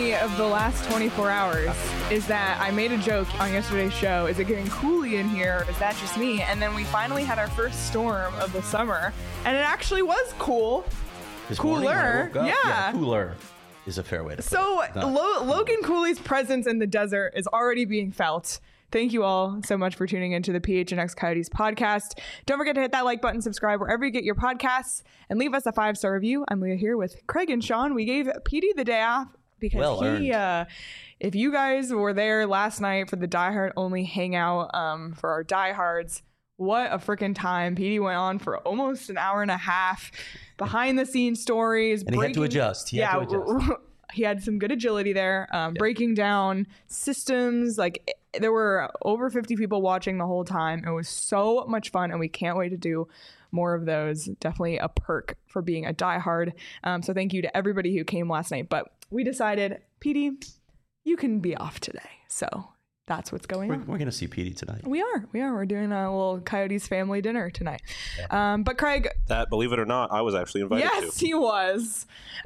me of the last 24 hours is that I made a joke on yesterday's show. Is it getting cooly in here? Or is that just me? And then we finally had our first storm of the summer, and it actually was cool. Cooler. Yeah. Cooler is a fair way to put it. So Logan Cooley's presence in the desert is already being felt. Thank you all so much for tuning into the PHNX Coyotes podcast. Don't forget to hit that like button, subscribe wherever you get your podcasts, and leave us a 5-star review. I'm Leah here with Craig and Sean. We gave PD the day off because if you guys were there last night for the Die Hard only hangout for our diehards, what a freaking time. PD went on for almost an hour and a half. Behind the scenes stories. And he had to adjust. He had some good agility there, breaking down systems. Like, there were over 50 people watching the whole time. It was so much fun, and we can't wait to do more of those. Definitely a perk for being a diehard. So thank you to everybody who came last night. But we decided, PD, you can be off today. So that's what's going on. We're going to see PD tonight. We are. We're doing a little Coyotes family dinner tonight. Yeah. But Craig... That, believe it or not, I was actually invited to. Yes, he was.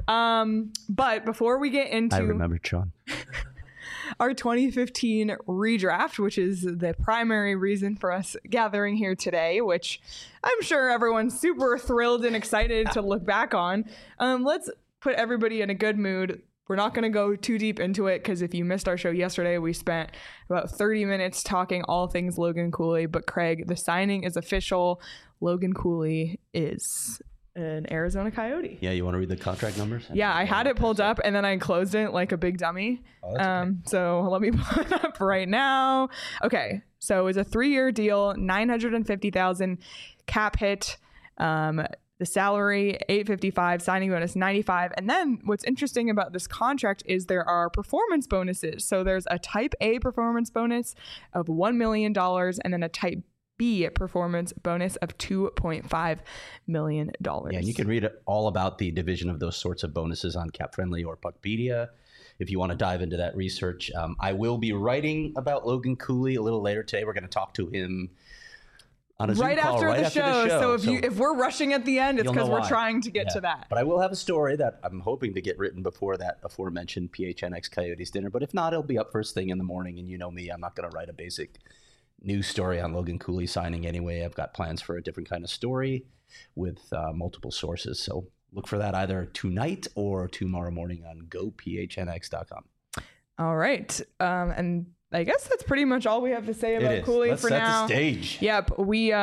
But before we get into... I remember, Sean. Our 2015 redraft, which is the primary reason for us gathering here today, which I'm sure everyone's super thrilled and excited to look back on. Let's put everybody in a good mood. We're not going to go too deep into it because if you missed our show yesterday, we spent about 30 minutes talking all things Logan Cooley. But Craig, the signing is official. Logan Cooley is an Arizona Coyote. Yeah, you want to read the contract numbers? Yeah, I had it pulled up and then I closed it like a big dummy. Oh, that's okay. So let me pull it up right now. Okay, so it's a 3-year deal, $950,000 cap hit. The salary, $855, signing bonus, $95. And then what's interesting about this contract is there are performance bonuses. So there's a type A performance bonus of $1 million and then a type B performance bonus of $2.5 million. Yeah, and you can read all about the division of those sorts of bonuses on Cap Friendly or Puckpedia if you want to dive into that research. I will be writing about Logan Cooley a little later today. We're going to talk to him on a Zoom call after the show. So if we're rushing at the end, it's because we're trying to get to that. But I will have a story that I'm hoping to get written before that aforementioned PHNX Coyotes dinner. But if not, it'll be up first thing in the morning. And you know me, I'm not going to write a basic news story on Logan Cooley signing anyway. I've got plans for a different kind of story with multiple sources. So look for that either tonight or tomorrow morning on gophnx.com. All right. And I guess that's pretty much all we have to say about Cooley for now. Let's set the stage. Yep.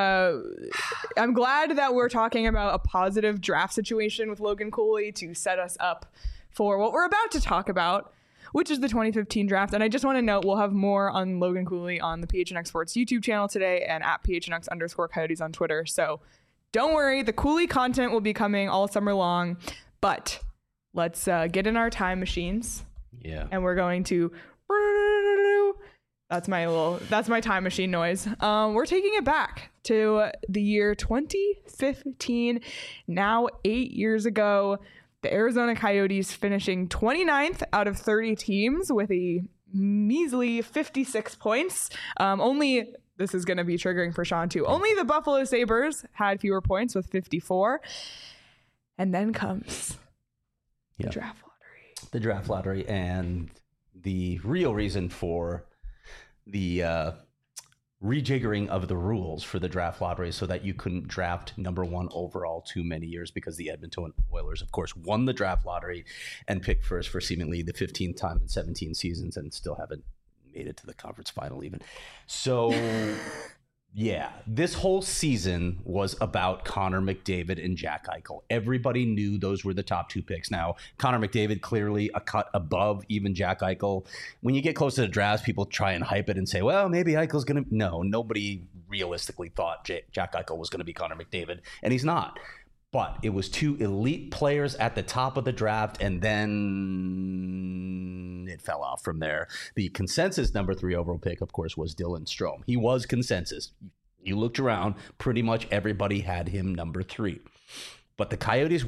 I'm glad that we're talking about a positive draft situation with Logan Cooley to set us up for what we're about to talk about, which is the 2015 draft. And I just want to note, we'll have more on Logan Cooley on the PHNX Sports YouTube channel today and at PHNX_Coyotes on Twitter. So don't worry, the Cooley content will be coming all summer long. But let's get in our time machines. Yeah. And we're going to... That's my time machine noise. We're taking it back to the year 2015. Now 8 years ago, the Arizona Coyotes finishing 29th out of 30 teams with a measly 56 points. This is going to be triggering for Sean too. Only the Buffalo Sabres had fewer points with 54. And then comes the draft lottery. The draft lottery, and the real reason for the rejiggering of the rules for the draft lottery so that you couldn't draft number 1 overall too many years, because the Edmonton Oilers, of course, won the draft lottery and picked first for seemingly the 15th time in 17 seasons and still haven't made it to the conference final even. So yeah, this whole season was about Connor McDavid and Jack Eichel. Everybody knew those were the top 2 picks. Now, Connor McDavid clearly a cut above even Jack Eichel. When you get close to the drafts, people try and hype it and say, well, maybe Eichel's going to... No, nobody realistically thought Jack Eichel was going to be Connor McDavid, and he's not. But it was 2 elite players at the top of the draft, and then it fell off from there. The consensus number 3 overall pick, of course, was Dylan Strome. He was consensus. You looked around, pretty much everybody had him number 3. But the Coyotes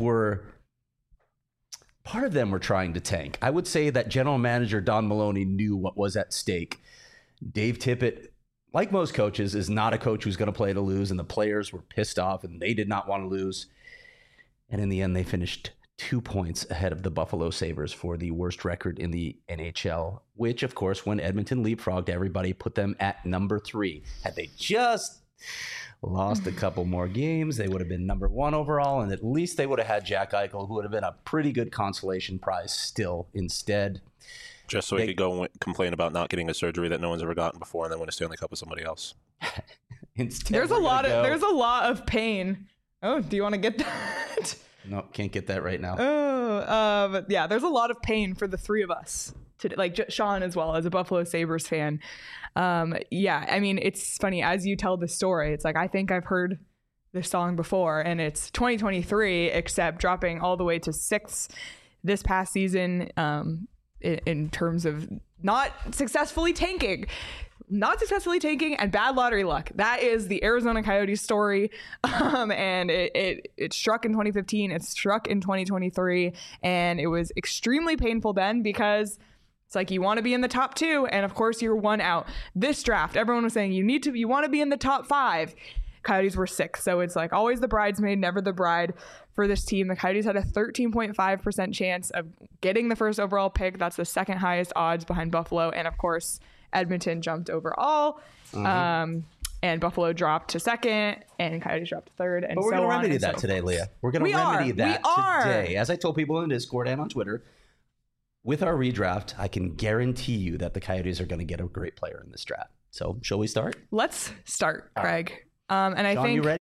part of them were trying to tank. I would say that general manager Don Maloney knew what was at stake. Dave Tippett, like most coaches, is not a coach who's going to play to lose, and the players were pissed off, and they did not want to lose. And in the end, they finished 2 points ahead of the Buffalo Sabres for the worst record in the NHL, which, of course, when Edmonton leapfrogged everybody, put them at number 3. Had they just lost a couple more games, they would have been number 1 overall, and at least they would have had Jack Eichel, who would have been a pretty good consolation prize still instead. Just so he could go and complain about not getting a surgery that no one's ever gotten before and then win a Stanley Cup with somebody else. Instead, there's a lot of pain. Oh, do you want to get that? No, can't get that right now. But yeah, there's a lot of pain for the three of us today, like Sean as well as a Buffalo Sabres fan. Yeah, I mean, it's funny as you tell the story. It's like, I think I've heard this song before, and it's 2023, except dropping all the way to 6th this past season, in terms of not successfully tanking and bad lottery luck. That is the Arizona Coyotes story. And it struck in 2015. It struck in 2023. And it was extremely painful then, because it's like, you want to be in the top 2. And of course you're 1 out. This draft, everyone was saying you want to be in the top 5. Coyotes were 6th. So it's like always the bridesmaid, never the bride for this team. The Coyotes had a 13.5% chance of getting the first overall pick. That's the second highest odds behind Buffalo. And of course, Edmonton jumped overall. And Buffalo dropped to 2nd, and Coyotes dropped to 3rd. And but we're so going to on remedy and so that today, Leah. We're going to remedy that today. As I told people in Discord and on Twitter, with our redraft, I can guarantee you that the Coyotes are going to get a great player in this draft. So shall we start? Let's start, Craig. And I Sean, think... you ready?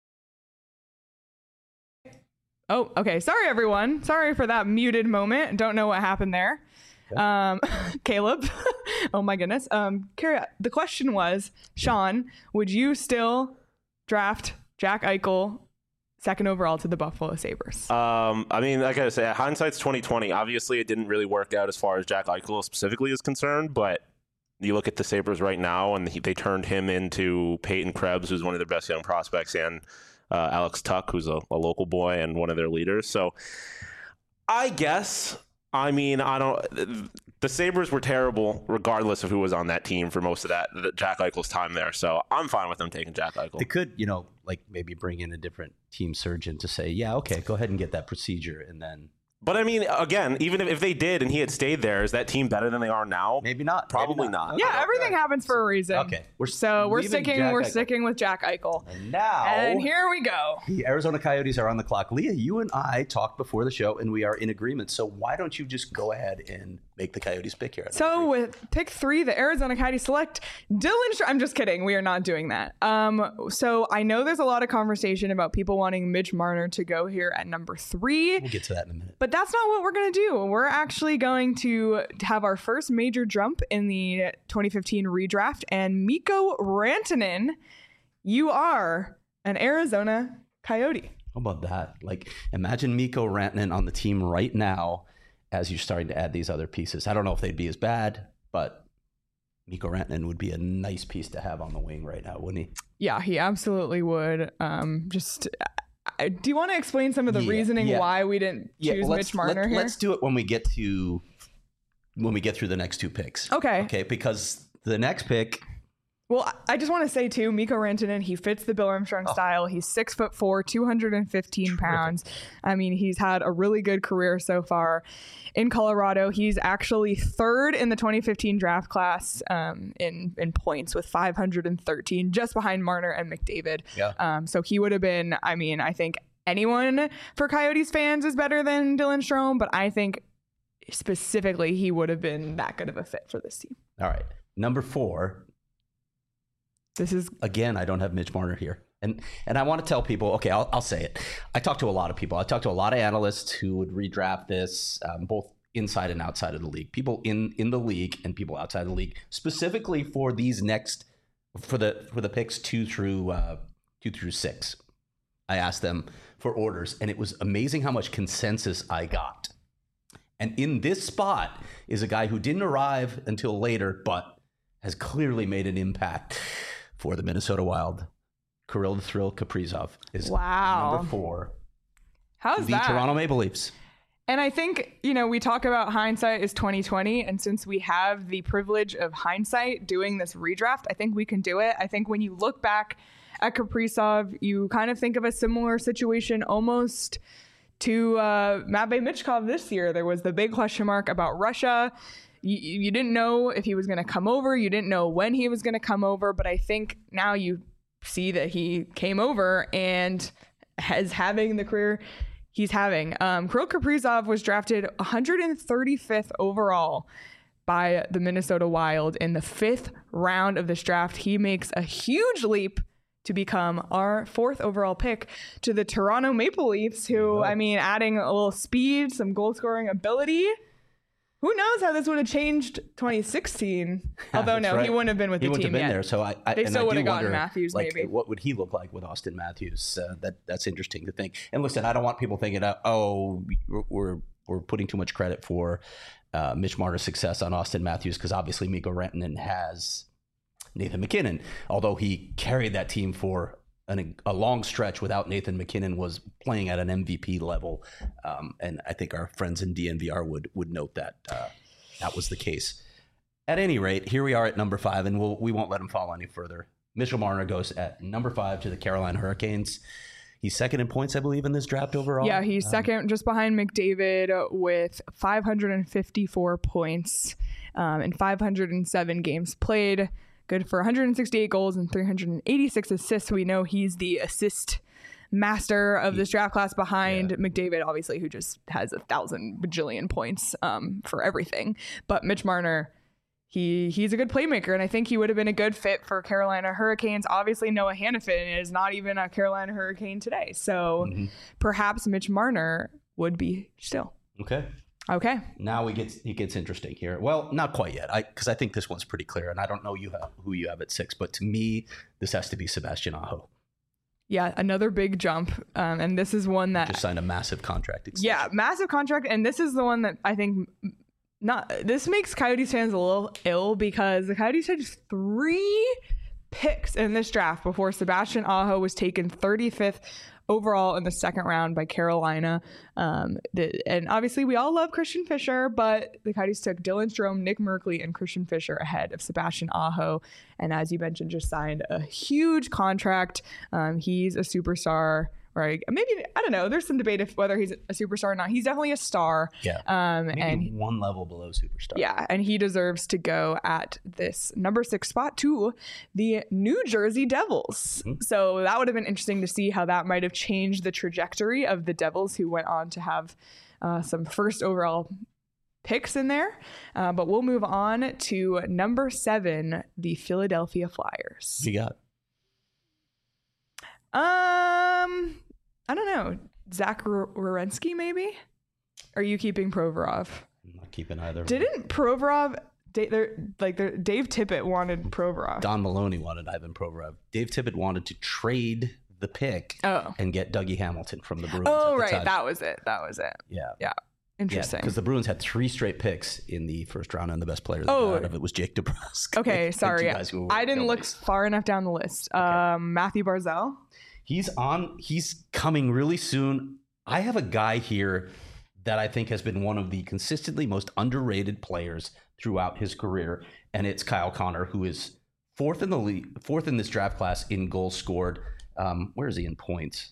Oh, okay. Sorry, everyone. Sorry for that muted moment. Don't know what happened there. Okay. Caleb. Oh, my goodness. Carrie, the question was, Sean, would you still draft Jack Eichel 2nd overall to the Buffalo Sabres? I mean, like I say, hindsight's 2020. Obviously, it didn't really work out as far as Jack Eichel specifically is concerned, but you look at the Sabres right now, and they turned him into Peyton Krebs, who's one of their best young prospects, and Alex Tuck, who's a local boy and one of their leaders. So I guess, I mean, the Sabres were terrible regardless of who was on that team for most of that Jack Eichel's time there. So I'm fine with them taking Jack Eichel. They could, like maybe bring in a different team surgeon to say, yeah, okay, go ahead and get that procedure, and then... But I mean, again, even if they did and he had stayed there, is that team better than they are now? Maybe not. Probably not. Okay. Yeah, everything happens for a reason. Okay. We're sticking with Jack Eichel. And now... And here we go. The Arizona Coyotes are on the clock. Leah, you and I talked before the show, and we are in agreement. So why don't you just go ahead and make the Coyotes pick here? So with pick 3, the Arizona Coyotes select Dylan Strome. I'm just kidding. We are not doing that. So I know there's a lot of conversation about people wanting Mitch Marner to go here at number 3. We'll get to that in a minute. But that's not what we're going to do. We're actually going to have our first major jump in the 2015 redraft. And Mikko Rantanen, you are an Arizona Coyote. How about that? Like, imagine Mikko Rantanen on the team right now as you're starting to add these other pieces. I don't know if they'd be as bad, but Mikko Rantanen would be a nice piece to have on the wing right now, wouldn't he? Yeah, he absolutely would. Do you want to explain some of the reasoning why we didn't choose Mitch Marner here? Let's do it when we get through the next 2 picks. Okay, because the next pick... Well, I just want to say, too, Mikko Rantanen, he fits the Bill Armstrong style. He's 6'4", 215 pounds. I mean, he's had a really good career so far in Colorado. He's actually 3rd in the 2015 draft class in points with 513, just behind Marner and McDavid. Yeah. So he would have been, I mean, I think anyone for Coyotes fans is better than Dylan Strome, but I think specifically he would have been that good of a fit for this team. All right. Number 4... This is again, I don't have Mitch Marner here. And I want to tell people, okay, I'll say it. I talked to a lot of people. I talked to a lot of analysts who would redraft this, both inside and outside of the league. People in the league and people outside of the league, specifically for these for the picks 2 through 6. I asked them for orders, and it was amazing how much consensus I got. And in this spot is a guy who didn't arrive until later, but has clearly made an impact for the Minnesota Wild. Kirill the Thrill Kaprizov is number 4. How's the that? Toronto Maple Leafs. And I think, we talk about hindsight is 2020. And since we have the privilege of hindsight doing this redraft, I think we can do it. I think when you look back at Kaprizov, you kind of think of a similar situation almost to Matvey Michkov this year. There was the big question mark about Russia. You didn't know if he was going to come over. You didn't know when he was going to come over. But I think now you see that he came over and is having the career he's having. Kirill Kaprizov was drafted 135th overall by the Minnesota Wild in the 5th round of this draft. He makes a huge leap to become our 4th overall pick to the Toronto Maple Leafs, who, I mean, adding a little speed, some goal scoring ability. Who knows how this would have changed 2016? Although, no, right. He wouldn't have been with the team yet. He wouldn't have been there. So they still would have gotten Matthews, like, maybe. What would he look like with Austin Matthews? That's interesting to think. And listen, I don't want people thinking, we're putting too much credit for Mitch Marner's success on Austin Matthews, because obviously Mikko Rantanen has Nathan MacKinnon. Although he carried that team for a long stretch without Nathan MacKinnon, was playing at an MVP level. And I think our friends in DNVR would note that that was the case. At any rate, here we are at number 5, and we won't let him fall any further. Mitchell Marner goes at number 5 to the Carolina Hurricanes. He's second in points, I believe, in this draft overall. Yeah, he's second just behind McDavid with 554 points in 507 games played. Good for 168 goals and 386 assists. We know he's the assist master of this draft class behind McDavid, obviously, who just has 1,000 bajillion points for everything. But Mitch Marner, he's a good playmaker, and I think he would have been a good fit for Carolina Hurricanes. Obviously, Noah Hanifin is not even a Carolina Hurricane today. So perhaps Mitch Marner would be still. Okay. Now it gets interesting here. Well, not quite yet, because I think this one's pretty clear, and I don't know who you have at 6, but to me, this has to be Sebastian Aho. Yeah, another big jump, and this is one that just signed a massive contract extension. Yeah, massive contract, and this is the one that I think this makes Coyotes fans a little ill, because the Coyotes had 3 picks in this draft before Sebastian Aho was taken 35th overall in the 2nd round by Carolina. And obviously we all love Christian Fischer, but the Coyotes took Dylan Strome, Nick Merkley, and Christian Fischer ahead of Sebastian Aho. And as you mentioned, just signed a huge contract. He's a superstar. Right. Maybe, I don't know. There's some debate if whether he's a superstar or not. He's definitely a star. Yeah. Maybe and one level below superstar. Yeah. And he deserves to go at this number 6 spot to the New Jersey Devils. So that would have been interesting to see how that might have changed the trajectory of the Devils, who went on to have some first overall picks in there. But we'll move on to number 7, the Philadelphia Flyers. You got? I don't know. Zach Werenski, maybe? Are you keeping Provorov? I'm not keeping either. Didn't Provorov, Dave Tippett wanted Provorov. Don Maloney wanted Ivan Provorov. Dave Tippett wanted to trade the pick and get Dougie Hamilton from the Bruins. Oh, right. Time. That was it. Yeah. Interesting. Because the Bruins had 3 straight picks in the first round, and the best player out of it was Jake DeBrusk. Okay, sorry. I didn't look far enough down the list. Okay. Matthew Barzal. He's coming really soon. I have a guy here that I think has been one of the consistently most underrated players throughout his career, and it's Kyle Connor, who is 4th in the league, 4th in this draft class in goals scored. Where is he in points?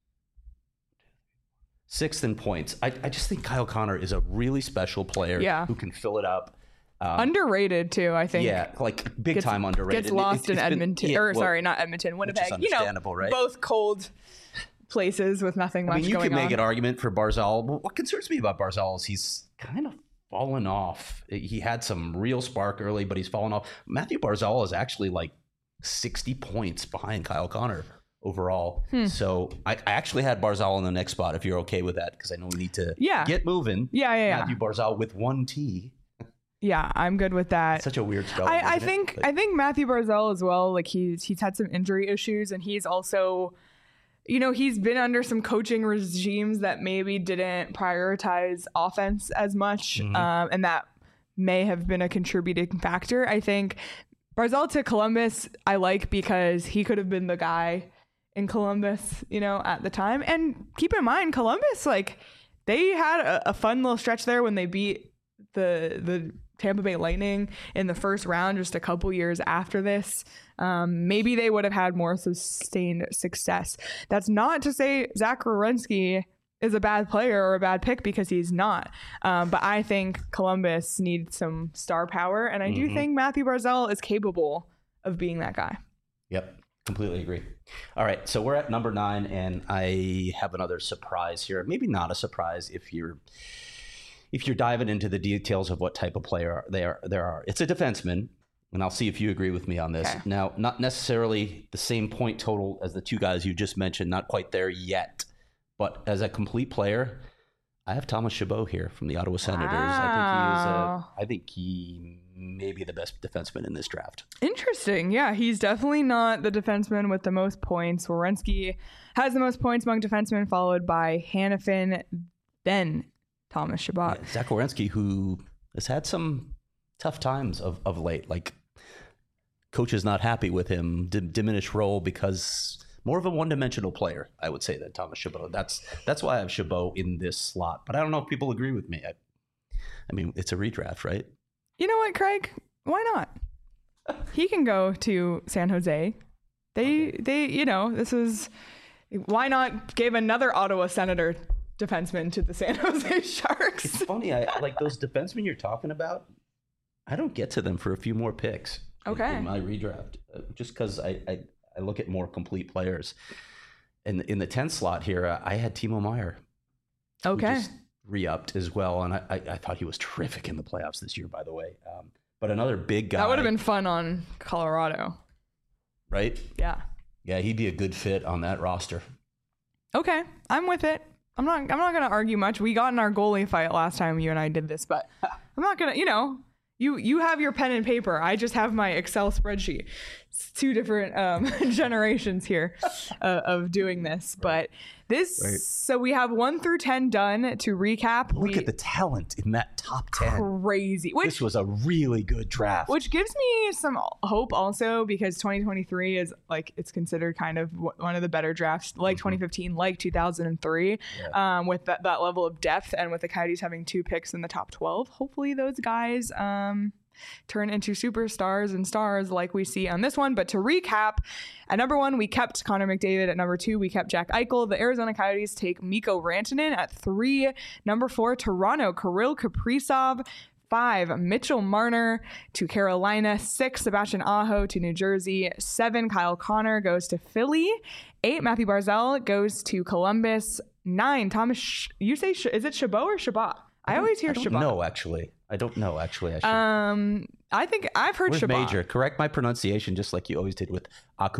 6th in points. I just think Kyle Connor is a really special player who can fill it up. Underrated too, I think. Yeah, like big time underrated. Gets lost in Edmonton, not Edmonton, Winnipeg. Understandable, right? Both cold places with nothing much going on. You could make an argument for Barzal. What concerns me about Barzal is he's kind of fallen off. He had some real spark early, but he's fallen off. Matthew Barzal is actually like 60 points behind Kyle Connor overall. So I actually had Barzal in the next spot, if you're okay with that, because I know we need to get moving. Yeah. Matthew Barzal with 1 T. Yeah, I'm good with that. It's such a weird spelling. I think Matthew Barzal as well. Like he's had some injury issues, and he's also, he's been under some coaching regimes that maybe didn't prioritize offense as much, and that may have been a contributing factor. I think Barzal to Columbus I like because he could have been the guy in Columbus, at the time. And keep in mind, Columbus, like they had a fun little stretch there when they beat the Tampa Bay Lightning in the first round just a couple years after this. Maybe they would have had more sustained success. That's not to say Zach Werenski is a bad player or a bad pick because he's not. But I think Columbus needs some star power, and I do think Matthew Barzal is capable of being that guy. Yep, completely agree. All right, so we're at number 9, and I have another surprise here. Maybe not a surprise if you're diving into the details of what type of player there are. It's a defenseman, and I'll see if you agree with me on this. Okay. Now, not necessarily the same point total as the two guys you just mentioned, not quite there yet. But as a complete player, I have Thomas Chabot here from the Ottawa Senators. Wow. I think he may be the best defenseman in this draft. Interesting. Yeah, he's definitely not the defenseman with the most points. Werenski has the most points among defensemen, followed by Hanifin, then Thomas Chabot. Yeah, Zach Werenski, who has had some tough times of late. Like, coach is not happy with him, diminished role because more of a one-dimensional player, I would say, than Thomas Chabot. That's why I have Chabot in this slot. But I don't know if people agree with me. I mean, it's a redraft, right? You know what, Craig? Why not? He can go to San Jose. They, this is, why not give another Ottawa Senator defenseman to the San Jose Sharks? It's funny. I like those defensemen you're talking about. I don't get to them for a few more picks. Okay. In my redraft, just because I look at more complete players. And in the 10th slot here, I had Timo Meier. Okay. Who just re-upped as well, and I thought he was terrific in the playoffs this year, by the way. But another big guy. That would have been fun on Colorado. Right? Yeah. Yeah, he'd be a good fit on that roster. Okay, I'm with it. I'm not going to argue much. We got in our goalie fight last time you and I did this, but I'm not going to, you have your pen and paper. I just have my Excel spreadsheet. It's two different generations here of doing this, but this, Right. So we have 1 through 10 done. To recap, Look at the talent in that top 10. crazy, This was a really good draft. which gives me some hope also, because 2023 is like, it's considered kind of one of the better drafts, like 2015, like 2003, with that level of depth, and with the Coyotes having 2 picks in the top 12. Hopefully those guys turn into superstars and stars like we see on this one. But to recap, at number 1, we kept Connor McDavid. At number 2, we kept Jack Eichel. The Arizona Coyotes take Mikko Rantanen at 3. Number 4, Toronto, Kirill Kaprizov. 5, Mitchell Marner to Carolina. 6, Sebastian Aho to New Jersey. 7, Kyle Connor goes to Philly. 8, Matthew Barzal goes to Columbus. 9, Thomas, you say, is it Chabot or Chabot? I always hear Chabot. No, actually. I don't know, actually. I think I've heard Where's Chabot. Major? Correct my pronunciation, just like you always did with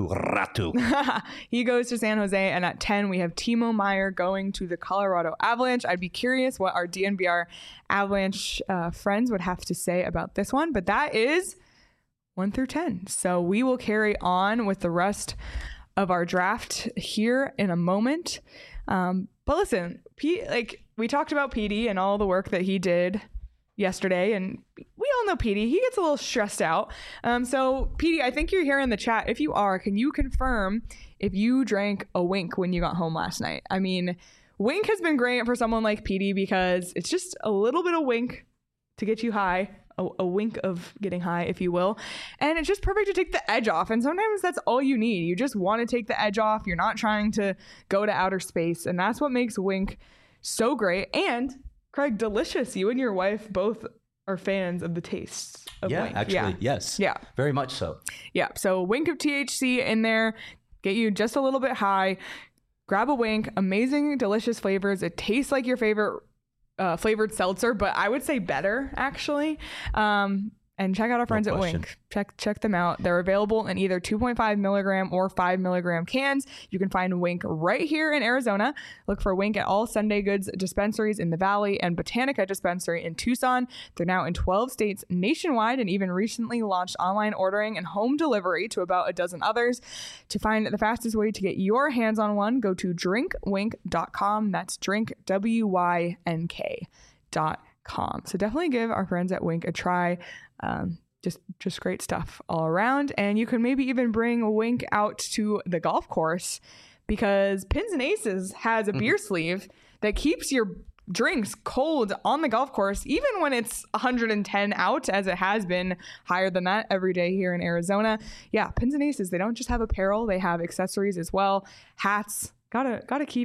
Akuratu. He goes to San Jose. And at 10, we have Timo Meier going to the Colorado Avalanche. I'd be curious what our DNVR Avalanche friends would have to say about this one. But that is 1 through 10. So we will carry on with the rest of our draft here in a moment. But listen, we talked about PD and all the work that he did yesterday, and we all know PD. He gets a little stressed out. So PD, I think you're here in the chat. If you are, can you confirm if you drank a Wink when you got home last night? I mean, Wink has been great for someone like PD because it's just a little bit of Wink to get you high. A wink of getting high, if you will. And it's just perfect to take the edge off. And sometimes that's all you need. You just want to take the edge off. You're not trying to go to outer space. And that's what makes Wink so great. And Craig, delicious. You and your wife both are fans of the tastes of Wink. Actually, yes. Yeah. Very much so. Yeah. So Wink of THC in there, get you just a little bit high. Grab a Wink. Amazing, delicious flavors. It tastes like your favorite flavored seltzer, but I would say better, actually. And check out our friends at Wink. Check them out. They're available in either 2.5 milligram or 5 milligram cans. You can find Wink right here in Arizona. Look for Wink at all Sunday Goods dispensaries in the Valley and Botanica dispensary in Tucson. They're now in 12 states nationwide and even recently launched online ordering and home delivery to about a dozen others. To find the fastest way to get your hands on one, go to drinkwink.com. That's drinkwynk.com. So definitely give our friends at Wink a try. Just great stuff all around. And you can maybe even bring a Wink out to the golf course, because Pins and Aces has a beer sleeve that keeps your drinks cold on the golf course, even when it's 110 out, as it has been higher than that every day here in Arizona. Yeah, Pins and Aces, they don't just have apparel, they have accessories as well. Hats, gotta keep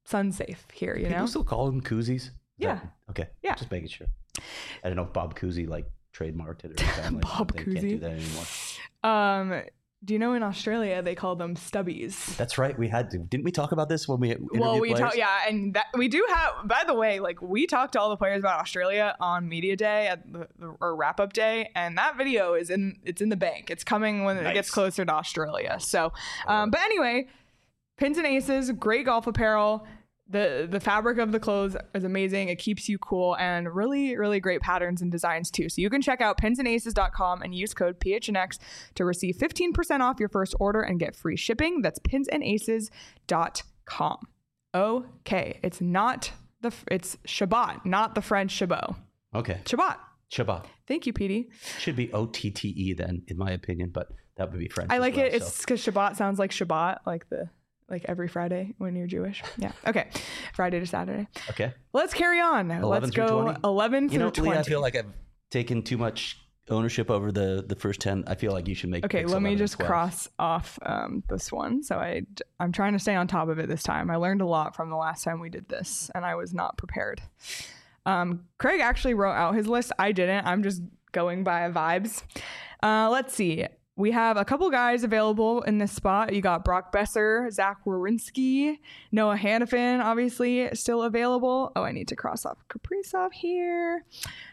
sun safe here, you People know? still call them koozies? Yeah. Okay. Yeah. Just making sure. I don't know if Bob Cousy like trademarked it or something. Bob they can't Cousy. do that anymore. Do you know in Australia they call them stubbies? That's right. We had to. Didn't we talk about this when we interviewed players? Yeah, and that we do have. By the way, like we talked to all the players about Australia on media day at or wrap up day, and that video is in the bank. It's coming when it gets closer to Australia. So, but anyway, Pins and Aces, great golf apparel. The fabric of the clothes is amazing. It keeps you cool and really, really great patterns and designs too. So you can check out pinsandaces.com and use code PHNX to receive 15% off your first order and get free shipping. That's pinsandaces.com. Okay. It's Shabbat, not the French Chabot. Okay. Shabbat. Thank you, Petey. Should be OTTE then, in my opinion, but that would be French. I like well, it. It's because Shabbat sounds like Shabbat, like every Friday when you're Jewish. Yeah. Okay. Friday to Saturday. Okay. Let's carry on. Let's go 20? 11 through 20. Lee, I feel like I've taken too much ownership over the first 10. I feel like you should make Okay, picks let me 11 just and 12. cross off this one. So I'm trying to stay on top of it this time. I learned a lot from the last time we did this, and I was not prepared. Craig actually wrote out his list. I didn't. I'm just going by vibes. Let's see. We have a couple guys available in this spot. You got Brock Besser, Zach Werenski, Noah Hannafin, obviously still available. Oh, I need to cross off Kaprizov here.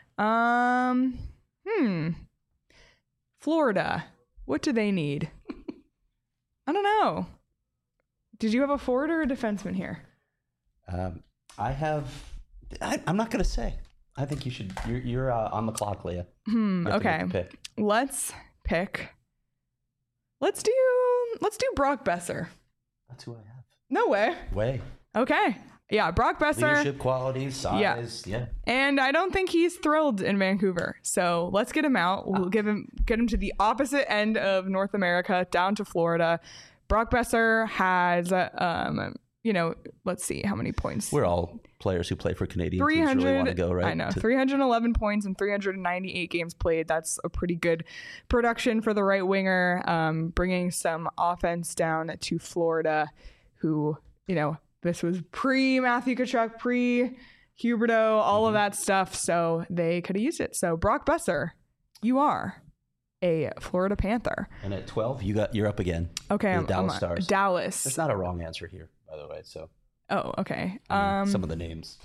Florida. What do they need? I don't know. Did you have a forward or a defenseman here? I'm not going to say. I think you should. You're on the clock, Leah. Okay. Let's pick. Let's do Brock Besser. That's who I have. No way. Okay. Yeah, Brock Besser. Leadership qualities, size, yeah. And I don't think he's thrilled in Vancouver. So let's get him out. We'll get him to the opposite end of North America, down to Florida. Brock Besser has, let's see how many points. We're all players who play for Canadian teams really want to go, right? I know. 311 points in 398 games played. That's a pretty good production for the right winger, bringing some offense down to Florida, who, this was pre-Matthew Tkachuk, pre-Huberdeau, all of that stuff. So they could have used it. So Brock Besser, you are a Florida Panther. And at 12, you're up again. Okay, I'm Dallas Stars. Dallas. There's not a wrong answer here, by the way. So. Oh, okay. Some of the names.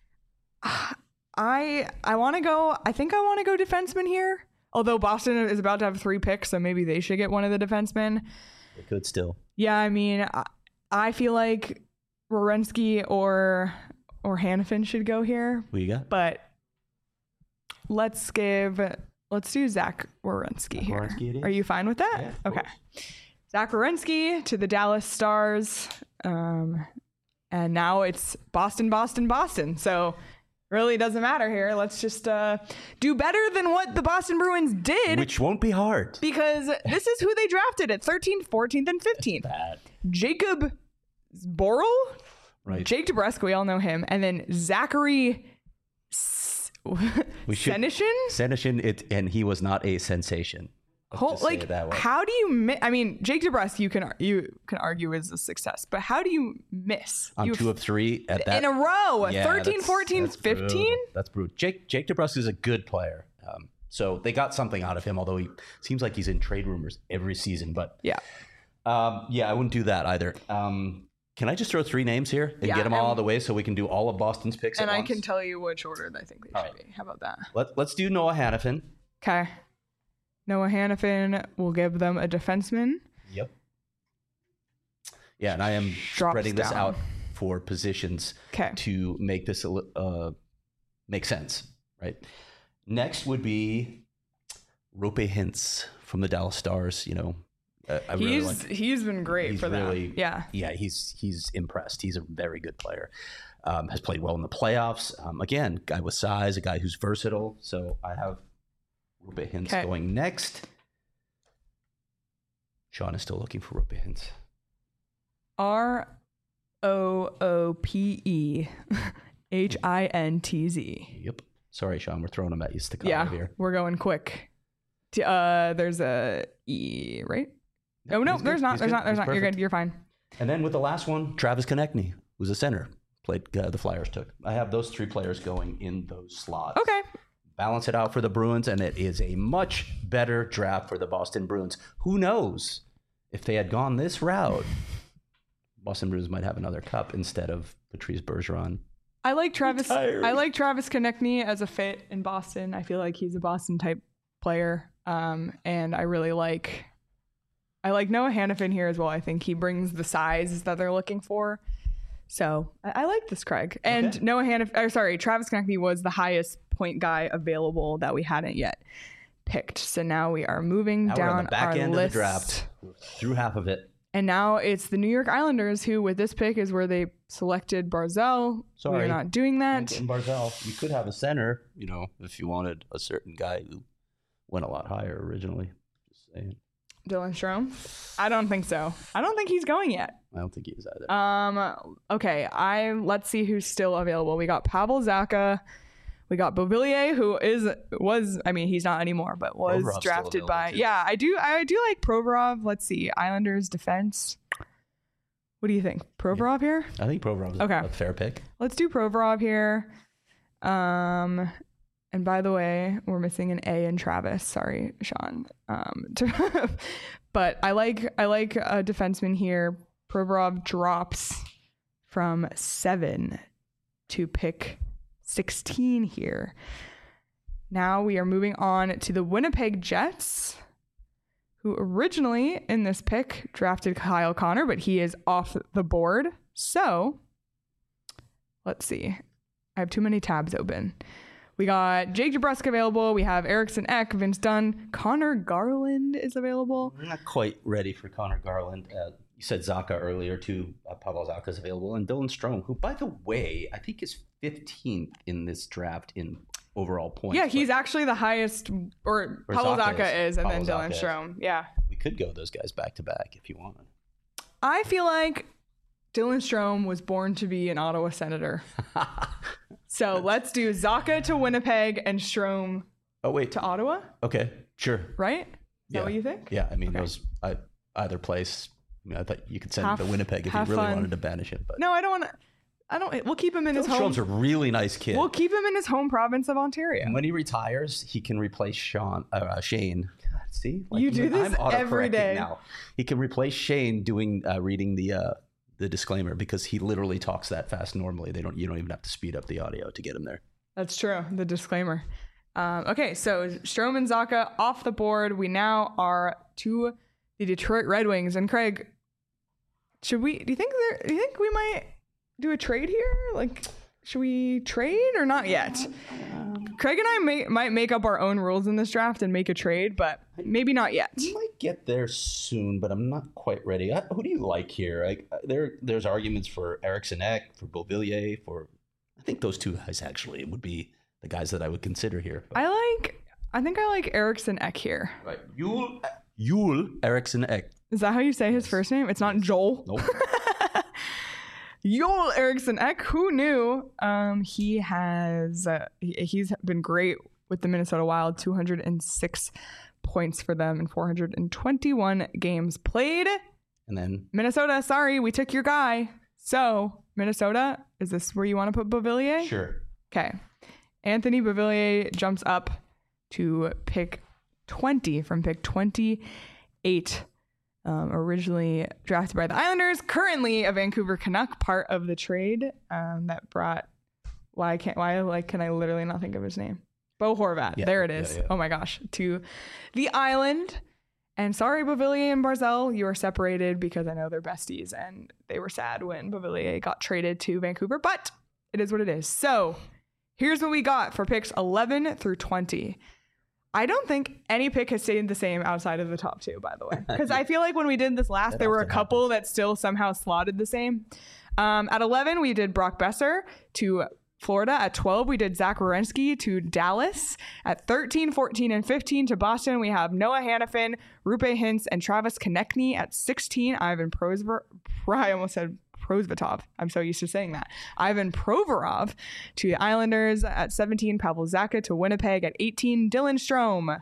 I want to go. I think I want to go defenseman here. Although Boston is about to have 3 picks, so maybe they should get one of the defensemen. They could still. Yeah, I mean, I feel like Werenski or Hannafin should go here. Who you got? But let's do Zach Werenski here. Werenski it is? Are you fine with that? Yeah, okay. Zach Werenski to the Dallas Stars. And now it's Boston. So really doesn't matter here. Let's just do better than what the Boston Bruins did. Which won't be hard. Because this is who they drafted at 13th, 14th, and 15th. Bad. Jacob Borrell? Right. Jake DeBrusk, we all know him. And then Zachary Senyshyn? And he was not a sensation. Let's just say it that way. How do you I mean, Jake DeBrusk, you can argue is a success, but how do you miss? On 2 of 3 at that in a row, yeah, 13, 14, 15. That's brutal. Jake DeBrusk is a good player. So they got something out of him, although he seems like he's in trade rumors every season. But yeah, I wouldn't do that either. Can I just throw 3 names here and get them all out of the way so we can do all of Boston's picks at once? And I can tell you which order I think they should be. How about that? Let's do Noah Hannafin. Okay. Noah Hannafin will give them a defenseman. Yep. Yeah, and I am spreading this out for positions to make this make sense, right? Next would be Roope Hintz from the Dallas Stars. He's been great for them. Yeah, he's impressed. He's a very good player. Has played well in the playoffs. Again, guy with size, a guy who's versatile. So I have Roope Hintz going next. Sean is still looking for Roope Hintz. ROOPEHINTZ. Yep. Sorry, Sean. We're throwing them at you staccato here. We're going quick. There's a E, right? Oh, no, there's not. There's not. You're good. You're fine. And then with the last one, Travis Konechny. who's a center, played the Flyers took. I have those 3 players going in those slots. Okay. Balance it out for the Bruins, and it is a much better draft for the Boston Bruins. Who knows? If they had gone this route, Boston Bruins might have another cup instead of Patrice Bergeron. I like Travis. Tired. I like Travis Konechny as a fit in Boston. I feel like he's a Boston type player, and I really like. I like Noah Hanifin here as well. I think he brings the size that they're looking for. So I like this, Craig. And Okay. Travis Konechny was the highest point guy available that we hadn't yet picked. So now we are moving Now we're down on the back our end list. of the draft. Through half of it. And now it's the New York Islanders who, with this pick, is where they selected Barzal. Sorry. We're not doing that. And Barzal, you could have a center, if you wanted a certain guy who went a lot higher originally. Just saying. Dylan Strome? I don't think so. I don't think he's going yet. I don't think he is either. Okay, let's see who's still available. We got Pavel Zacha. We got Beauvillier, who he's not anymore, but was Provorov's drafted still by. available, too. Yeah, I do like Provorov. Let's see, Islanders defense. What do you think, Provorov here? I think Provorov is Okay. a fair pick. Let's do Provorov here. And by the way, we're missing an A in Travis. Sorry, Sean. But I like a defenseman here. Provorov drops from 7 to pick 16 here. Now we are moving on to the Winnipeg Jets, who originally in this pick drafted Kyle Connor, but he is off the board. So let's see. I have too many tabs open. We got Jake DeBrusk available. We have Eriksson Ek, Vince Dunn. Connor Garland is available. I'm not quite ready for Connor Garland. You said Zacha earlier, too. Pavel Zacha is available. And Dylan Strome, who, by the way, I think is 15th in this draft in overall points. Yeah, he's actually the highest, or Pavel Zacha is, and then Dylan Strome. Yeah. We could go those guys back to back if you wanted. I feel like Dylan Strome was born to be an Ottawa Senator. So let's do Zacha to Winnipeg and Strome to Ottawa, Okay, sure. right? Is that what you think? Yeah, I mean, Okay. those either place. I thought you could send him to Winnipeg if you have really fun. wanted to banish him. But No, I don't want to. We'll keep him in his Dylan home. Strome's a really nice kid. We'll keep him in his home province of Ontario. And when he retires, he can replace Shane. God, see, You do this I'm every autocorrecting day. Now he can replace Shane reading the disclaimer because he literally talks that fast normally. You don't even have to speed up the audio to get him there. That's true. The disclaimer. Okay, so Strome and Zacha off the board. We now are to the Detroit Red Wings. And Craig, do you think we might do a trade here? Like, should we trade or not yet? Craig and I might make up our own rules in this draft and make a trade, but maybe not yet. We might get there soon, but I'm not quite ready. Who do you like here? There's arguments for Eriksson Ek, for Beauvillier, I think those two guys actually would be the guys that I would consider here. But, I think I like Eriksson Ek here. right. Yule Eriksson Ek. Is that how you say his first name? It's not Joel. Nope. Joel Eriksson Ek, who knew? He's been great with the Minnesota Wild, 206 points for them in 421 games played. And then Minnesota, sorry, we took your guy. So, Minnesota, is this where you want to put Beauvillier? sure. Okay. Anthony Beauvillier jumps up to pick 20 from pick 28. Originally drafted by the Islanders, currently a Vancouver Canuck, part of the trade that brought. Can I literally not think of his name? Bo Horvat. Yeah, There it is. yeah. Oh my gosh, to the island. And sorry, Beauvillier and Barzal, you are separated because I know they're besties, and they were sad when Beauvillier got traded to Vancouver. But it is what it is. So here's what we got for picks 11 through 20. I don't think any pick has stayed the same outside of the top two, by the way. Because I feel like when we did this last, That there were a often couple that still somehow slotted the same. At 11, we did Brock Besser to Florida. At 12, we did Zach Werenski to Dallas. At 13, 14, and 15 to Boston, we have Noah Hanifin, Rupe Hintz, and Travis Konechny. At 16, Ivan I almost said Prosvetov. I'm so used to saying that. Ivan Provorov to the Islanders. At 17, Pavel Zacha to Winnipeg. At 18, Dylan Strome.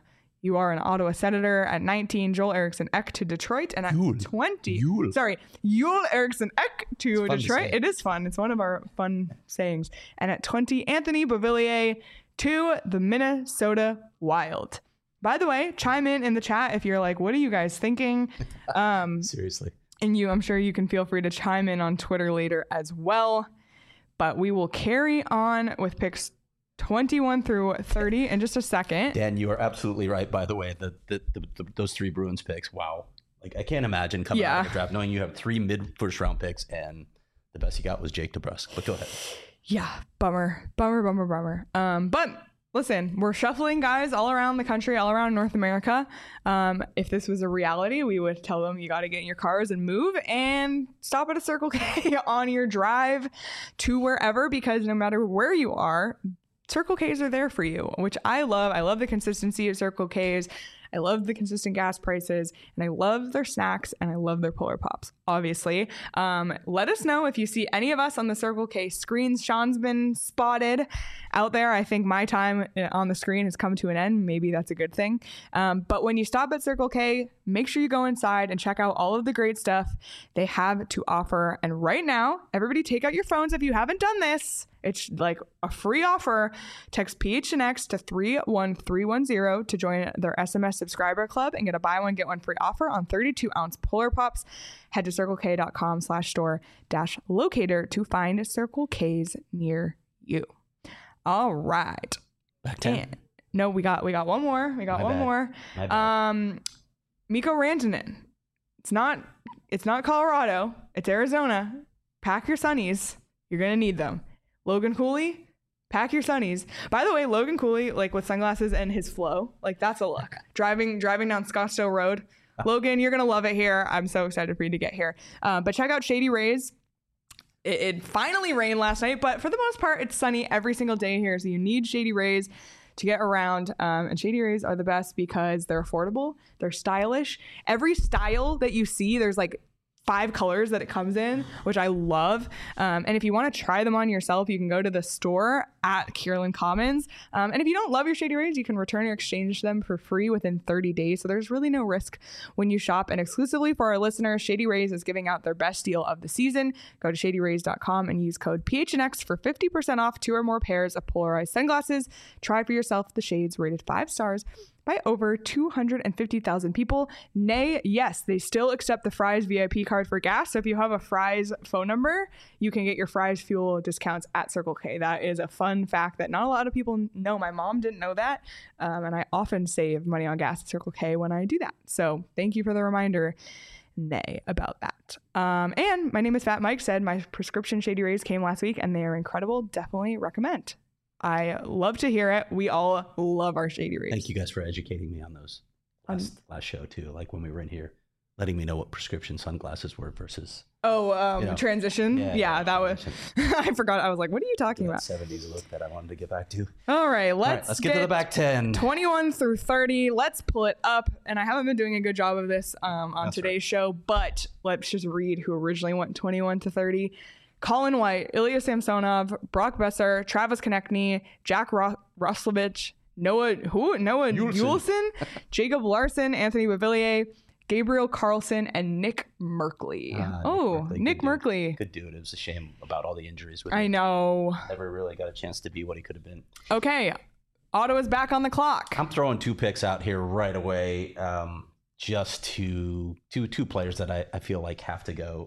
you are an Ottawa Senator. At 19, Joel Eriksson Ek to Detroit. And at 20, Joel Eriksson Ek to Detroit. It is fun. It's one of our fun sayings. And at 20, Anthony Beauvillier to the Minnesota Wild. By the way, chime in the chat if you're like, what are you guys thinking? Seriously. And I'm sure you can feel free to chime in on Twitter later as well. But we will carry on with picks 21 through 30 in just a second. Dan, you are absolutely right, by the way. Those 3 Bruins picks, wow. Like, I can't imagine coming out of the draft knowing you have 3 mid-first round picks and the best you got was Jake DeBrusk. But go ahead. Yeah, bummer. But listen, we're shuffling guys all around the country, all around North America. If this was a reality, we would tell them you got to get in your cars and move and stop at a Circle K on your drive to wherever, because no matter where you are, Circle Ks are there for you, which I love. I love the consistency of Circle Ks. I love the consistent gas prices, and I love their snacks, and I love their Polar Pops, obviously. Let us know if you see any of us on the Circle K screens. Sean's been spotted out there. I think my time on the screen has come to an end. Maybe that's a good thing. But when you stop at Circle K, make sure you go inside and check out all of the great stuff they have to offer. And right now, everybody take out your phones if you haven't done this. It's like a free offer. Text PHNX to 31310 to join their SMS subscriber club and get a buy one, get one free offer on 32-ounce Polar Pops. Head to circlek.com/store-locator to find Circle Ks near you. All right. Back 10. No, we got one more. We got one more. Mikko Rantanen. It's not Colorado. It's Arizona. Pack your sunnies. You're going to need them. Logan Cooley, pack your sunnies. By the way, Logan Cooley, like with sunglasses and his flow, like that's a look. Driving down Scottsdale Road. Logan, you're going to love it here. I'm so excited for you to get here. But check out Shady Rays. It finally rained last night, but for the most part, it's sunny every single day here. So you need Shady Rays to get around. And Shady Rays are the best because they're affordable. They're stylish. Every style that you see, there's like 5 colors that it comes in, which I love. And if you want to try them on yourself, you can go to the store at Kierland Commons. And if you don't love your Shady Rays, you can return or exchange them for free within 30 days. So there's really no risk when you shop. And exclusively for our listeners, Shady Rays is giving out their best deal of the season. Go to shadyrays.com and use code PHNX for 50% off 2 or more pairs of polarized sunglasses. Try for yourself the shades rated 5 stars by over 250,000 people. Nay, yes, they still accept the Fry's VIP card for gas. So if you have a Fry's phone number, you can get your Fry's fuel discounts at Circle K. That is a fun fact that not a lot of people know. My mom didn't know that. And I often save money on gas at Circle K when I do that. So thank you for the reminder, Nay, about that. And my name is Fat Mike said my prescription Shady Rays came last week and they are incredible. Definitely recommend. I love to hear it. We all love our Shady Rays. Thank you guys for educating me on those last show too. Like when we were in here, letting me know what prescription sunglasses were versus transition. Yeah, that was. I forgot. I was like, what are you talking about? 70s look that I wanted to get back to. All right, let's get to the back 10. 21 through 30. Let's pull it up. And I haven't been doing a good job of this on today's show, but let's just read who originally went 21 to 30. Colin White, Ilya Samsonov, Brock Besser, Travis Konechny, Jack Roslovich, Noah Juleson, Jacob Larson, Anthony Beauvillier, Gabriel Carlson, and Nick Merkley. Nick Merkley. Good dude. It was a shame about all the injuries with him. I know. Never really got a chance to be what he could have been. Okay. Ottawa's back on the clock. I'm throwing 2 picks out here right away. Just two players that I feel like have to go.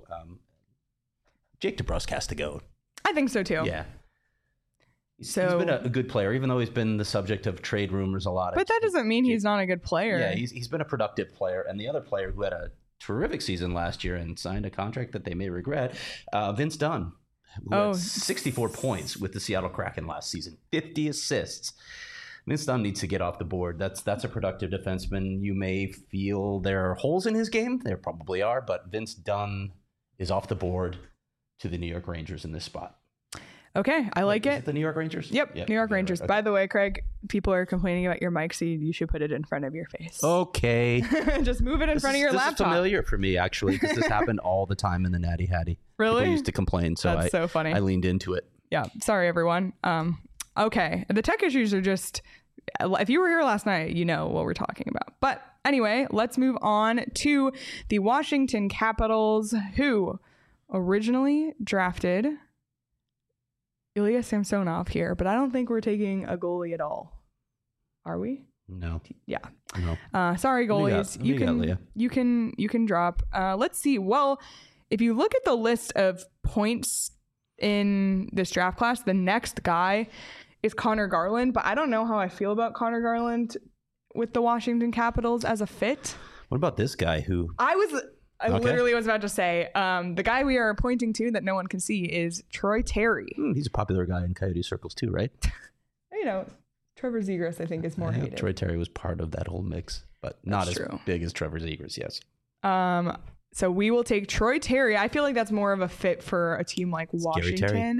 Jake DeBrusk has to go. I think so too. Yeah. He's been a good player, even though he's been the subject of trade rumors a lot. But that doesn't mean he's not a good player. Yeah, he's been a productive player. And the other player who had a terrific season last year and signed a contract that they may regret, Vince Dunn, who had 64 points with the Seattle Kraken last season, 50 assists. Vince Dunn needs to get off the board. That's a productive defenseman. You may feel there are holes in his game. There probably are, but Vince Dunn is off the board to the New York Rangers in this spot. Okay, I like it. The New York Rangers? Yep, New York Rangers. Okay. By the way, Craig, people are complaining about your mic, so you should put it in front of your face. Okay. Just move it in front of your laptop. This is familiar for me, actually, because this happened all the time in the Natty Hattie. Really? People used to complain, so That's so funny. I leaned into it. Yeah, sorry, everyone. Okay, the tech issues are just if you were here last night, you know what we're talking about. But anyway, let's move on to the Washington Capitals, who originally drafted Ilya Samsonov here, but I don't think we're taking a goalie at all. Are we? No. Yeah. No. Sorry, goalies. You can drop. Let's see. Well, if you look at the list of points in this draft class, the next guy is Connor Garland, but I don't know how I feel about Connor Garland with the Washington Capitals as a fit. What about this guy who I literally was about to say, the guy we are pointing to that no one can see is Troy Terry. he's a popular guy in Coyote circles too, right? You know, Trevor Zegras, I think, is more hated. Troy Terry was part of that whole mix, but not as big as Trevor Zegras, yes. So we will take Troy Terry. I feel like that's more of a fit for a team like Washington.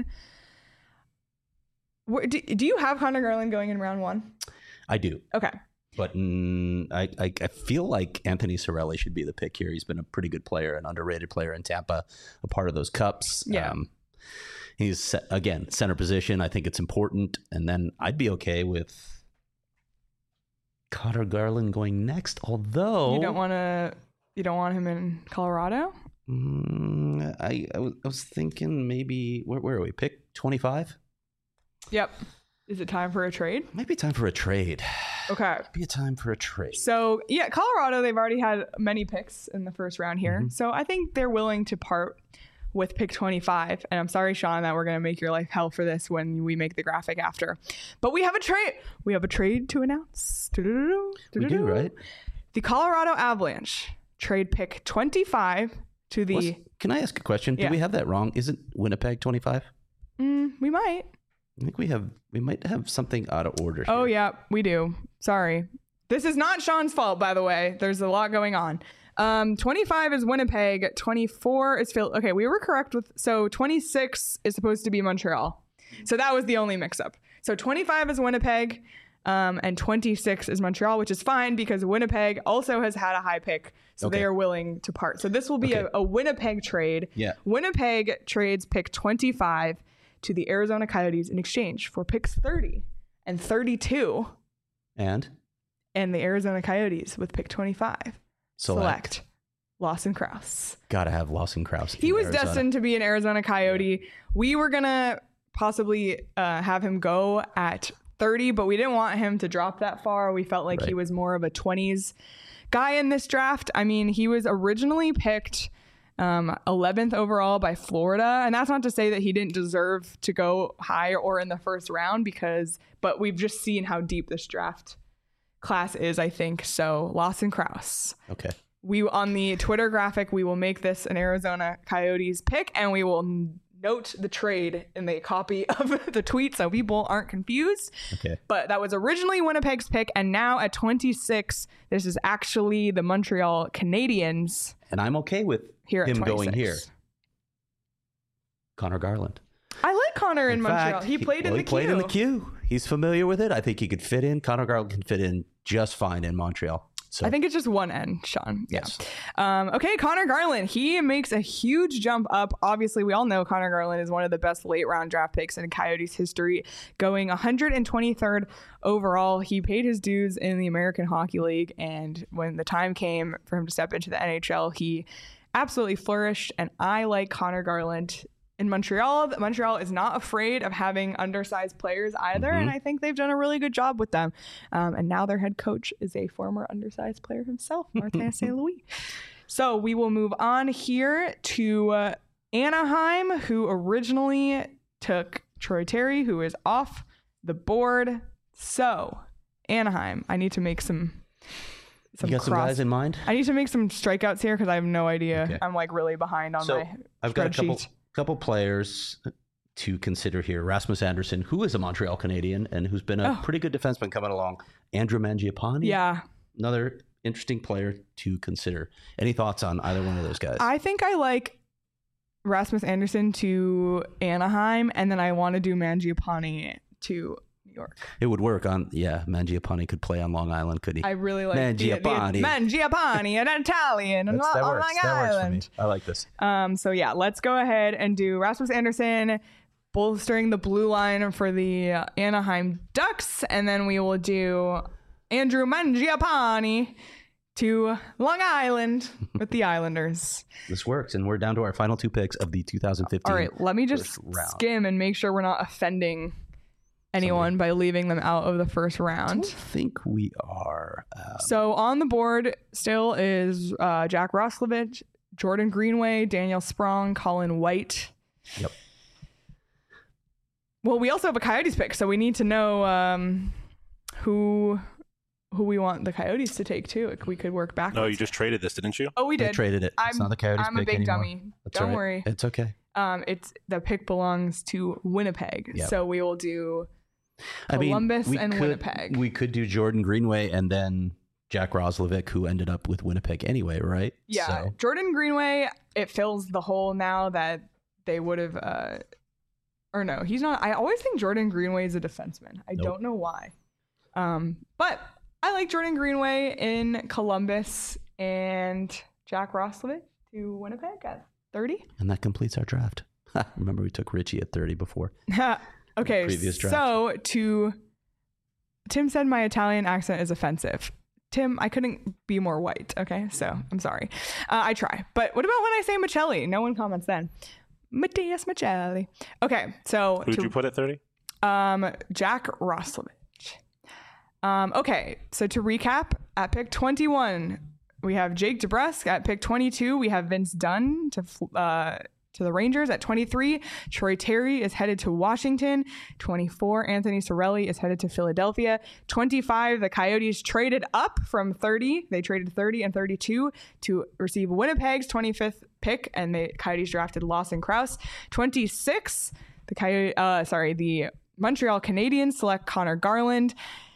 Do you have Connor Garland going in round 1? I do. Okay. But I feel like Anthony Cirelli should be the pick here. He's been a pretty good player, an underrated player in Tampa, a part of those cups. Yeah. He's, again, center position. I think it's important. And then I'd be okay with Connor Garland going next, although... You don't want him in Colorado? I was thinking maybe... Where are we? Pick 25? Yep. Is it time for a trade? Might be time for a trade. Okay. Be a time for a trade. So, yeah, Colorado, they've already had many picks in the first round here. Mm-hmm. So I think they're willing to part with pick 25. And I'm sorry, Sean, that we're going to make your life hell for this when we make the graphic after. But we have a trade. We have a trade to announce. We do, right? The Colorado Avalanche trade pick 25 to the... Can I ask a question? Yeah. Do we have that wrong? Isn't Winnipeg 25? We might. I think we might have something out of order here. Oh, yeah, we do. Sorry. This is not Sean's fault, by the way. There's a lot going on. 25 is Winnipeg. 24 is Phil. Okay, we were correct with... So 26 is supposed to be Montreal. So that was the only mix-up. So 25 is Winnipeg, and 26 is Montreal, which is fine because Winnipeg also has had a high pick. So they are willing to part. So this will be a Winnipeg trade. Yeah. Winnipeg trades pick 25 to the Arizona Coyotes in exchange for picks 30 and 32. And the Arizona Coyotes with pick 25 select Lawson Crouse. Gotta have Lawson Crouse. He was destined to be an Arizona Coyote. Yeah. We were gonna possibly have him go at 30, but we didn't want him to drop that far. We felt like he was more of a 20s guy in this draft. I mean, he was originally picked 11th overall by Florida. And that's not to say that he didn't deserve to go high or in the first round but we've just seen how deep this draft class is, I think. So Lawson Crouse. Okay. On the Twitter graphic, we will make this an Arizona Coyotes pick and we will note the trade in the copy of the tweet so people aren't confused. Okay. But that was originally Winnipeg's pick. And now at 26, this is actually the Montreal Canadiens. And I'm okay with him going here. Connor Garland. I like Connor in Montreal. He played in the Q. He's familiar with it. I think he could fit in. Connor Garland can fit in just fine in Montreal. So I think it's just one N, Sean. Yes. Okay, Connor Garland. He makes a huge jump up. Obviously, we all know Connor Garland is one of the best late round draft picks in Coyotes history, going 123rd overall. He paid his dues in the American Hockey League, and when the time came for him to step into the NHL, he absolutely flourished. And I like Connor Garland in Montreal. Montreal is not afraid of having undersized players either, and I think they've done a really good job with them. And now their head coach is a former undersized player himself, Martin St. Louis. So we will move on here to Anaheim, who originally took Troy Terry, who is off the board. So Anaheim, I need to make some guys in mind? I need to make some strikeouts here because I have no idea. Okay. I'm like really behind on my I've got a couple players to consider here. Rasmus Anderson, who is a Montreal Canadian and who's been a pretty good defenseman coming along. Andrew Mangiapane. Yeah. Another interesting player to consider. Any thoughts on either one of those guys? I think I like Rasmus Anderson to Anaheim, and then I want to do Mangiapane to New York. It would work on, Mangiapane could play on Long Island, could he? I really like Mangiapane. Mangiapane, an Italian on Long Island. That works for me. I like this. So yeah, let's go ahead and do Rasmus Anderson bolstering the blue line for the Anaheim Ducks. And then we will do Andrew Mangiapane to Long Island with the Islanders. This works, and we're down to our final 2 picks of the 2015. All right, let me just skim and make sure we're not offending anyone by leaving them out of the first round. I think we are. So on the board still is Jack Roslovic, Jordan Greenway, Daniel Sprong, Colin White. Yep. Well, we also have a Coyotes pick, so we need to know who we want the Coyotes to take too. We could work backwards. No, you just traded this, didn't you? Oh, we did. I traded it. It's not the Coyotes I'm pick a big anymore. dummy. That's Don't right. worry. It's okay. It's the pick belongs to Winnipeg. Yep. So we will do Columbus and Winnipeg. We could do Jordan Greenway and then Jack Roslovic, who ended up with Winnipeg anyway, right? Yeah. So. Jordan Greenway, it fills the hole now that they would have or no, he's not. I always think Jordan Greenway is a defenseman. I don't know why. But I like Jordan Greenway in Columbus and Jack Roslovic to Winnipeg at 30. And that completes our draft. Remember, we took Richie at 30 before. Okay, previous draft. So Tim said my Italian accent is offensive. Tim, I couldn't be more white. Okay, so I'm sorry. I try. But what about when I say Michelli? No one comments then. Mattias Michelli. Okay, so Who'd you put at 30? Jack Roslovic. Okay, so to recap, at pick 21, we have Jake DeBrusk. At pick 22, we have Vince Dunn to the Rangers. At 23, Troy Terry is headed to Washington. 24, Anthony Cirelli is headed to Philadelphia. 25, the Coyotes traded up from 30. They traded 30 and 32 to receive Winnipeg's 25th pick, and the Coyotes drafted Lawson Krause. 26, the Montreal Canadiens select Connor Garland.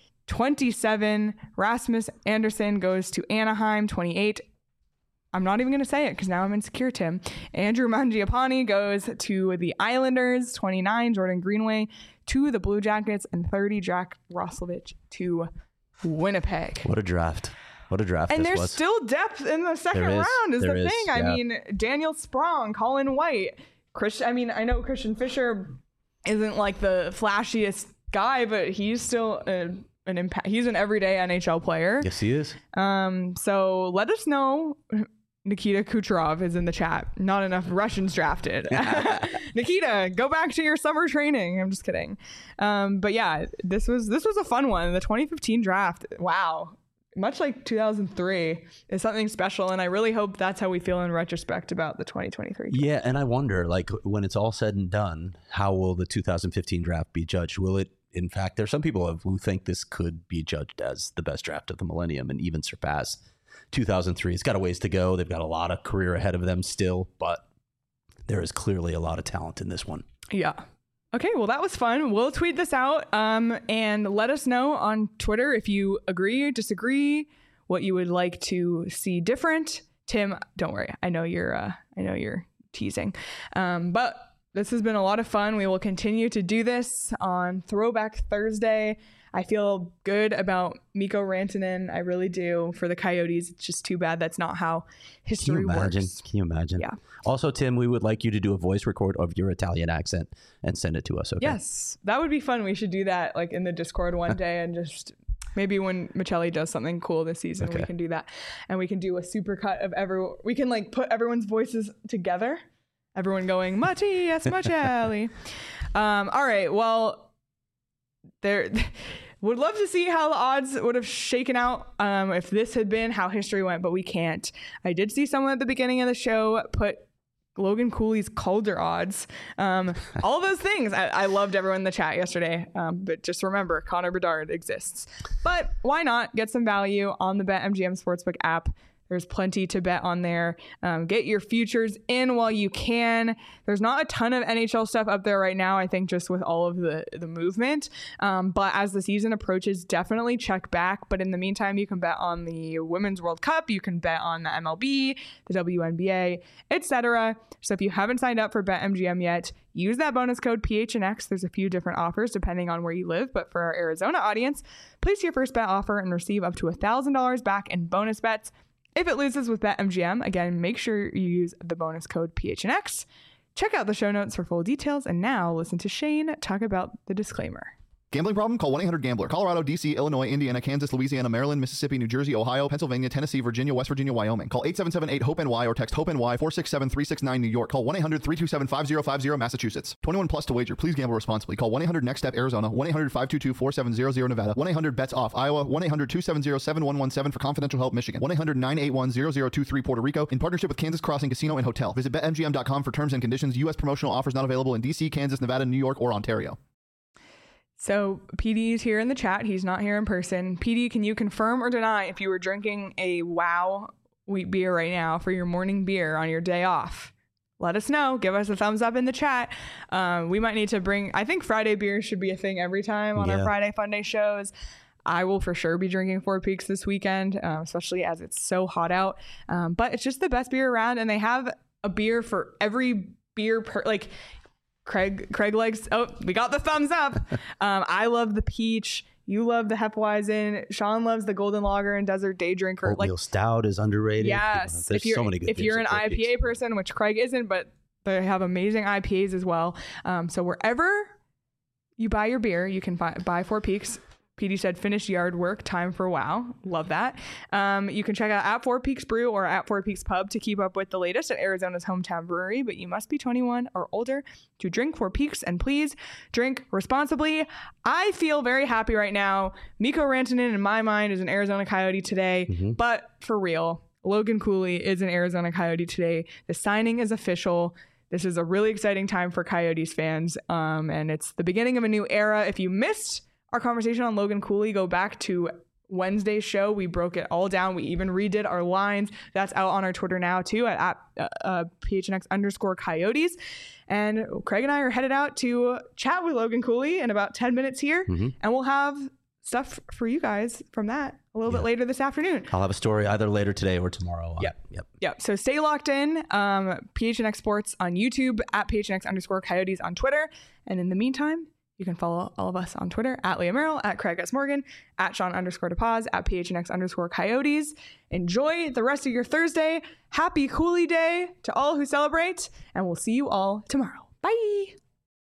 27, Rasmus Anderson goes to Anaheim. 28, I'm not even going to say it because now I'm insecure, Tim. Andrew Mangiapane goes to the Islanders. 29, Jordan Greenway to the Blue Jackets. And 30, Jack Roslovic to Winnipeg. What a draft. What a draft And this there's was. still depth in the second round is the thing. Yeah. I mean, Daniel Sprong, Colin White, I know Christian Fisher isn't like the flashiest guy, but he's still an impact. He's an everyday NHL player. Yes, he is. So let us know. Nikita Kucherov is in the chat. Not enough Russians drafted. Nikita, go back to your summer training. I'm just kidding. But yeah, this was a fun one. The 2015 draft. Wow. Much like 2003 is something special. And I really hope that's how we feel in retrospect about the 2023 draft. Yeah. And I wonder, like, when it's all said and done, how will the 2015 draft be judged? Will it, in fact, there's some people who think this could be judged as the best draft of the millennium and even surpass 2003. It's got a ways to go. They've got a lot of career ahead of them still, but there is clearly a lot of talent in this one. Yeah. Okay, well, that was fun. We'll tweet this out and let us know on Twitter if you agree or disagree, what you would like to see different. Tim, don't worry. I know you're teasing. But this has been a lot of fun. We will continue to do this on Throwback Thursday. I feel good about Mikko Rantanen. I really do. For the Coyotes, it's just too bad that's not how history works. Can you imagine? Yeah. Also, Tim, we would like you to do a voice record of your Italian accent and send it to us, okay? Yes, that would be fun. We should do that like in the Discord one day and just maybe when Michelli does something cool this season, we can do that. And we can do a supercut of we can like put everyone's voices together. Everyone going, Mattias Michelli. All right, well, would love to see how the odds would have shaken out if this had been how history went, but we can't. I did see someone at the beginning of the show put Logan Cooley's Calder odds. All those things. I loved everyone in the chat yesterday. But just remember, Connor Bedard exists. But why not get some value on the BetMGM Sportsbook app? There's plenty to bet on there. Get your futures in while you can. There's not a ton of NHL stuff up there right now, I think, just with all of the movement. But as the season approaches, definitely check back. But in the meantime, you can bet on the Women's World Cup. You can bet on the MLB, the WNBA, etc. So if you haven't signed up for BetMGM yet, use that bonus code PHNX. There's a few different offers depending on where you live. But for our Arizona audience, place your first bet offer and receive up to $1,000 back in bonus bets. If it loses with BetMGM, again, make sure you use the bonus code PHNX. Check out the show notes for full details. And now listen to Shane talk about the disclaimer. Gambling problem? Call 1-800-GAMBLER. Colorado, D.C., Illinois, Indiana, Kansas, Louisiana, Maryland, Mississippi, New Jersey, Ohio, Pennsylvania, Tennessee, Virginia, West Virginia, Wyoming. Call 877-8-HOPE-NY or text HOPE-NY 467-369 New York. Call 1-800-327-5050 Massachusetts. 21 plus to wager. Please gamble responsibly. Call 1-800-NEXT-STEP Arizona. 1-800-522-4700 Nevada. 1-800-BETS-OFF Iowa. 1-800-270-7117 for confidential help Michigan. 1-800-981-0023 Puerto Rico. In partnership with Kansas Crossing Casino and Hotel. Visit BetMGM.com for terms and conditions. U.S. promotional offers not available in D.C., Kansas, Nevada, New York, or Ontario. So PD's here in the chat. He's not here in person. PD, can you confirm or deny if you were drinking a WOW wheat beer right now for your morning beer on your day off? Let us know. Give us a thumbs up in the chat. We might need to bring, I think Friday beers should be a thing every time on our Friday Fun Day shows. I will for sure be drinking Four Peaks this weekend, especially as it's so hot out. But it's just the best beer around, and they have a beer for every beer Craig likes, we got the thumbs up. I love the peach. You love the Hefeweizen. Sean loves the Golden Lager and Desert Day Drinker. Oatmeal Stout is underrated. Yes. There's so many good if you're an IPA person, which Craig isn't, but they have amazing IPAs as well. So wherever you buy your beer, you can buy Four Peaks. PD said, finished yard work, time for WOW. Love that. You can check out at Four Peaks Brew or at Four Peaks Pub to keep up with the latest at Arizona's hometown brewery, but you must be 21 or older to drink Four Peaks, and please drink responsibly. I feel very happy right now. Mikko Rantanen, in my mind, is an Arizona Coyote today, but for real, Logan Cooley is an Arizona Coyote today. The signing is official. This is a really exciting time for Coyotes fans, and it's the beginning of a new era. If you missed our conversation on Logan Cooley, go back to Wednesday's show. We broke it all down. We even redid our lines. That's out on our Twitter now too at PHNX_Coyotes. And Craig and I are headed out to chat with Logan Cooley in about 10 minutes here. And we'll have stuff for you guys from that a little bit later this afternoon. I'll have a story either later today or tomorrow. Yep. So stay locked in. PHNX Sports on YouTube, at PHNX_Coyotes on Twitter. And in the meantime, you can follow all of us on Twitter at Leah Merrill, at Craig S. Morgan, at Sean_DePaz, at PHNX_Coyotes. Enjoy the rest of your Thursday. Happy Cooley Day to all who celebrate, and we'll see you all tomorrow. Bye.